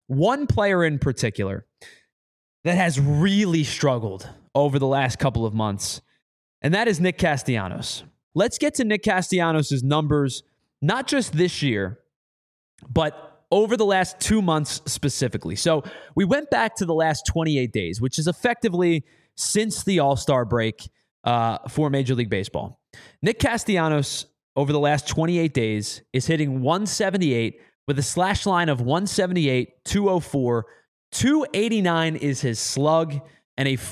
one player in particular that has really struggled over the last couple of months, and that is Nick Castellanos. Let's get to Nick Castellanos' numbers, not just this year, but over the last 2 months specifically. So we went back to the last 28 days, which is effectively since the All-Star break for Major League Baseball. Nick Castellanos, over the last 28 days, is hitting 178 with a slash line of 178, 204, 289 is his slug, and a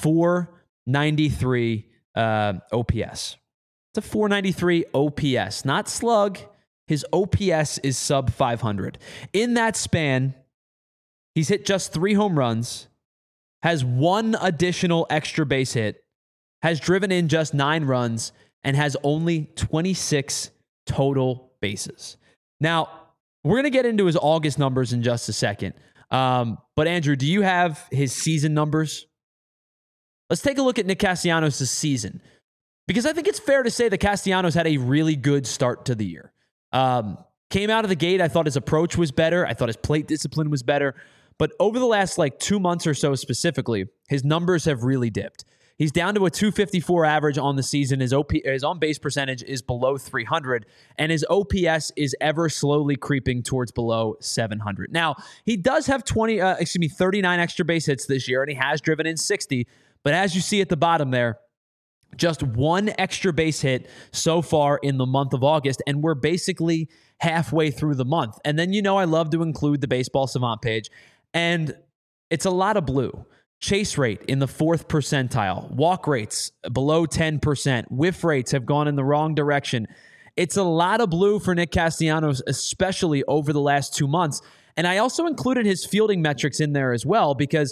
493 OPS. It's a 493 OPS, not slug. His OPS is sub 500. In that span, he's hit just 3 home runs, has 1 additional extra base hit, has driven in just 9 runs, and has only 26 total bases. Now, we're going to get into his August numbers in just a second. But Andrew, do you have his season numbers? Let's take a look at Nick Castellanos' season, because I think it's fair to say that Castellanos had a really good start to the year. Came out of the gate, I thought his approach was better. I thought his plate discipline was better. But over the last 2 months or so specifically, his numbers have really dipped. He's down to a 254 average on the season. His on-base percentage is below 300, and his OPS is ever slowly creeping towards below 700. Now, he does have 39 extra base hits this year, and he has driven in 60. But as you see at the bottom there, just 1 extra base hit so far in the month of August, and we're basically halfway through the month. And then, I love to include the Baseball Savant page, and it's a lot of blue. Chase rate in the 4th percentile, walk rates below 10%, whiff rates have gone in the wrong direction. It's a lot of blue for Nick Castellanos, especially over the last 2 months. And I also included his fielding metrics in there as well, because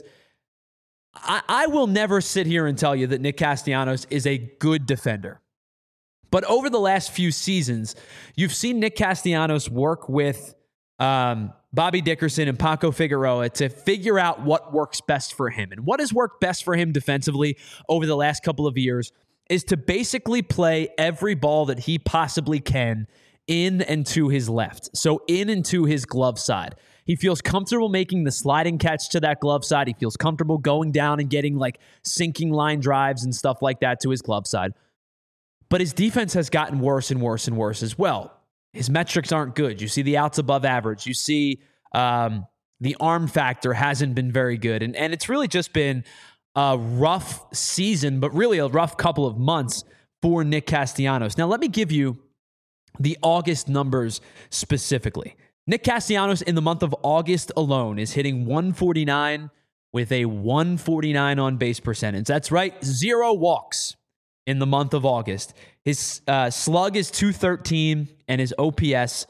I will never sit here and tell you that Nick Castellanos is a good defender. But over the last few seasons, you've seen Nick Castellanos work with Bobby Dickerson and Paco Figueroa to figure out what works best for him. And what has worked best for him defensively over the last couple of years is to basically play every ball that he possibly can in and to his left. So in and to his glove side. He feels comfortable making the sliding catch to that glove side. He feels comfortable going down and getting sinking line drives and stuff like that to his glove side. But his defense has gotten worse and worse and worse as well. His metrics aren't good. You see the outs above average. You see the arm factor hasn't been very good. And it's really just been a rough season, but really a rough couple of months for Nick Castellanos. Now, let me give you the August numbers specifically. Nick Castellanos in the month of August alone is hitting 149 with a 149 on base percentage. That's right, 0 walks in the month of August. His slug is 213 and his OPS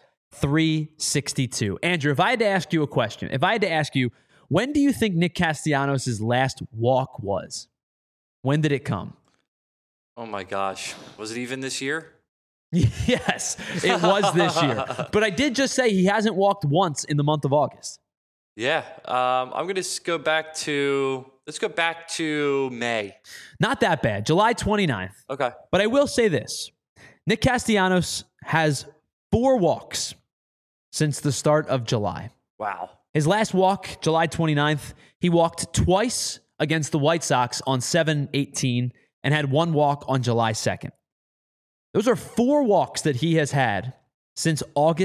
362. Andrew, if I had to ask you a question, when do you think Nick Castellanos' last walk was? When did it come? Oh my gosh. Was it even this year? Yes, it was this year. But I did just say he hasn't walked once in the month of August. Yeah. I'm going to go back to, let's go back to May. Not that bad. July 29th. Okay. But I will say this. Nick Castellanos has 4 walks since the start of July. Wow. His last walk, July 29th, he walked twice against the White Sox on 7/18 and had 1 walk on July 2nd. Those are 4 walks that he has had since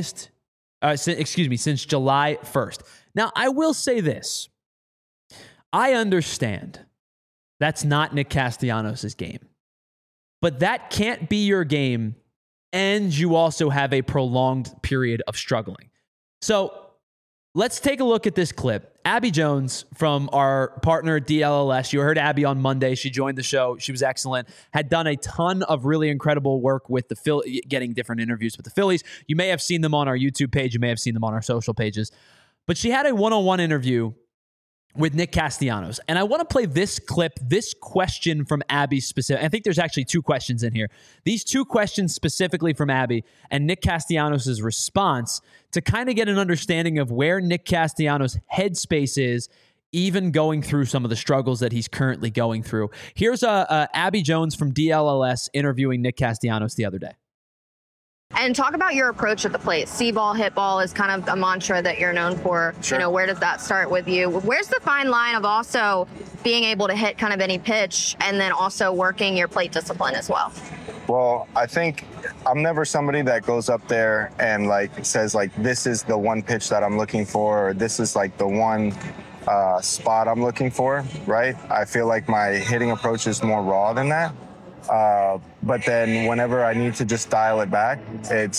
since July 1st. Now, I will say this. I understand that's not Nick Castellanos' game. But that can't be your game, and you also have a prolonged period of struggling. So let's take a look at this clip. Abby Jones from our partner DLLS. You heard Abby on Monday. She joined the show. She was excellent. Had done a ton of really incredible work with the Phillies, getting different interviews with the Phillies. You may have seen them on our YouTube page. You may have seen them on our social pages. But she had a one-on-one interview with Nick Castellanos. And I want to play this clip, this question from Abby specific. I think there's actually 2 questions in here. These 2 questions specifically from Abby and Nick Castellanos' response to kind of get an understanding of where Nick Castellanos' headspace is, even going through some of the struggles that he's currently going through. Here's Abby Jones from DLLS interviewing Nick Castellanos the other day. And talk about your approach at the plate. See ball, hit ball is kind of a mantra that you're known for. Sure. You know, where does that start with you? Where's the fine line of also being able to hit kind of any pitch and then also working your plate discipline as well? Well, I think I'm never somebody that goes up there and like says like, this is the one pitch that I'm looking for, or this is like the one spot I'm looking for, right? I feel like my hitting approach is more raw than that. But then whenever I need to just dial it back, it's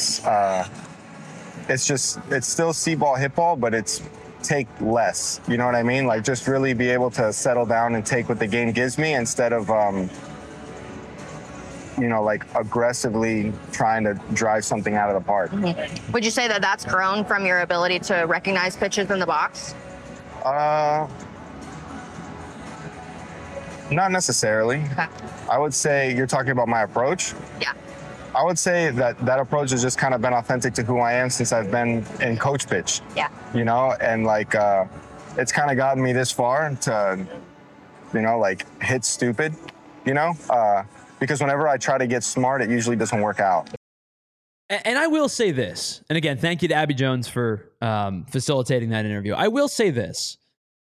still see ball, hit ball, but it's take less. You know what I mean? Like just really be able to settle down and take what the game gives me instead of, like aggressively trying to drive something out of the park. Mm-hmm. Would you say that that's grown from your ability to recognize pitches in the box? Not necessarily. Okay. I would say you're talking about my approach. Yeah. I would say that approach has just kind of been authentic to who I am since I've been in coach pitch. Yeah. And like, it's kind of gotten me this far to, like hit stupid, because whenever I try to get smart, it usually doesn't work out. And I will say this, and again, thank you to Abby Jones for facilitating that interview. I will say this.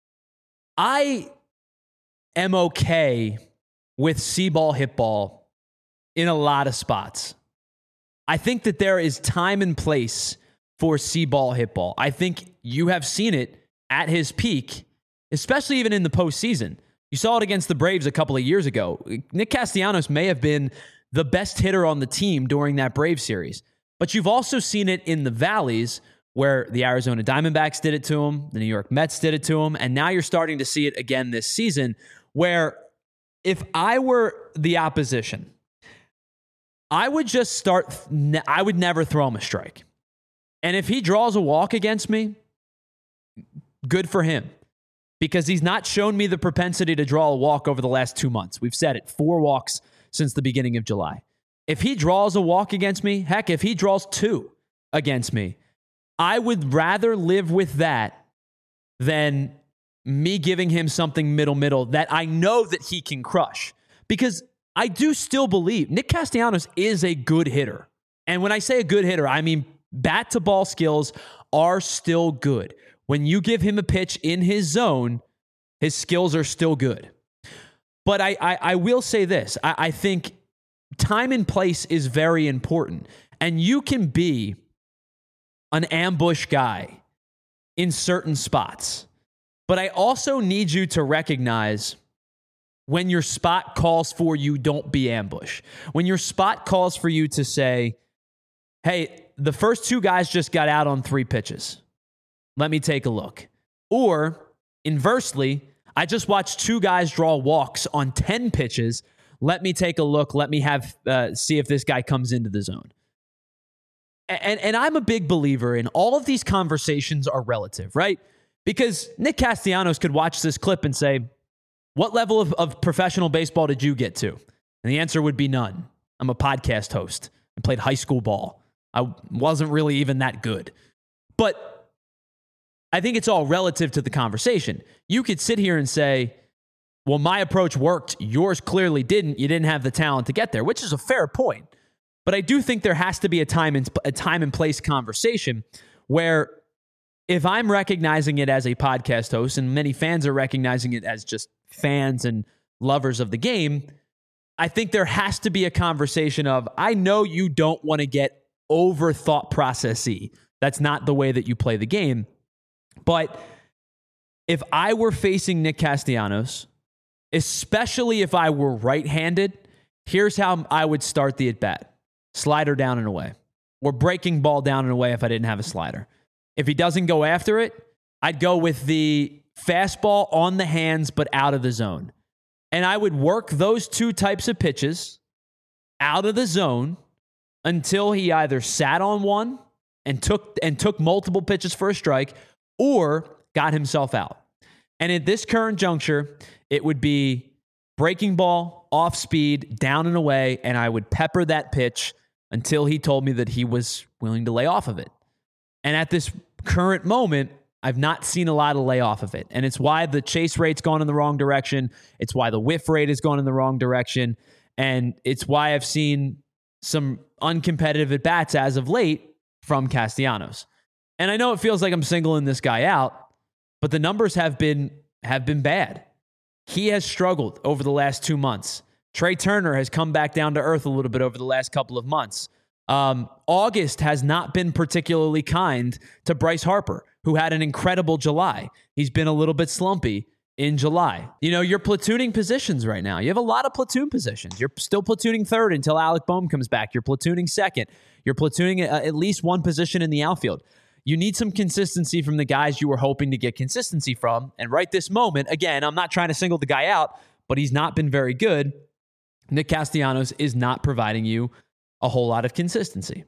I am okay with see ball, hit ball in a lot of spots. I think that there is time and place for see ball, hit ball. I think you have seen it at his peak, especially even in the postseason. You saw it against the Braves a couple of years ago. Nick Castellanos may have been the best hitter on the team during that Braves series. But you've also seen it in the valleys where the Arizona Diamondbacks did it to him, the New York Mets did it to him, and now you're starting to see it again this season where if I were the opposition, I would never throw him a strike. And if he draws a walk against me, good for him. Because he's not shown me the propensity to draw a walk over the last 2 months. We've said it, 4 walks since the beginning of July. If he draws a walk against me, heck, if he draws 2 against me, I would rather live with that than me giving him something middle that I know that he can crush. Because I do still believe Nick Castellanos is a good hitter. And when I say a good hitter, I mean bat to ball skills are still good. When you give him a pitch in his zone, his skills are still good. But I will say this. I think time and place is very important. And you can be an ambush guy in certain spots. But I also need you to recognize when your spot calls for you, don't be ambush. When your spot calls for you to say, hey, the first 2 guys just got out on 3 pitches. Let me take a look. Or inversely, I just watched 2 guys draw walks on 10 pitches. Let me take a look. Let me see if this guy comes into the zone. And I'm a big believer in all of these conversations are relative, right? Because Nick Castellanos could watch this clip and say, what level of professional baseball did you get to? And the answer would be none. I'm a podcast host. I played high school ball. I wasn't really even that good. But I think it's all relative to the conversation. You could sit here and say, well, my approach worked. Yours clearly didn't. You didn't have the talent to get there, which is a fair point. But I do think there has to be a time and place conversation where if I'm recognizing it as a podcast host and many fans are recognizing it as just fans and lovers of the game, I think there has to be a conversation of, I know you don't want to get over thought processy. That's not the way that you play the game. But if I were facing Nick Castellanos, especially if I were right-handed, here's how I would start the at-bat. Slider down and away. Or breaking ball down and away if I didn't have a slider. If he doesn't go after it, I'd go with the fastball on the hands but out of the zone. And I would work those 2 types of pitches out of the zone until he either sat on one and took multiple pitches for a strike or got himself out. And at this current juncture, it would be breaking ball, off speed, down and away, and I would pepper that pitch until he told me that he was willing to lay off of it. And at this current moment, I've not seen a lot of lay off of it. And it's why the chase rate's gone in the wrong direction. It's why the whiff rate has gone in the wrong direction. And it's why I've seen some uncompetitive at bats as of late from Castellanos. And I know it feels like I'm singling this guy out, but the numbers have been bad. He has struggled over the last 2 months. Trey Turner has come back down to earth a little bit over the last couple of months. August has not been particularly kind to Bryce Harper, who had an incredible July. He's been a little bit slumpy in July. You know, you're platooning positions right now. You have a lot of platoon positions. You're still platooning third until Alec Bohm comes back. You're platooning second. You're platooning at least one position in the outfield. You need some consistency from the guys you were hoping to get consistency from. And right this moment, again, I'm not trying to single the guy out, but he's not been very good. Nick Castellanos is not providing you a whole lot of consistency.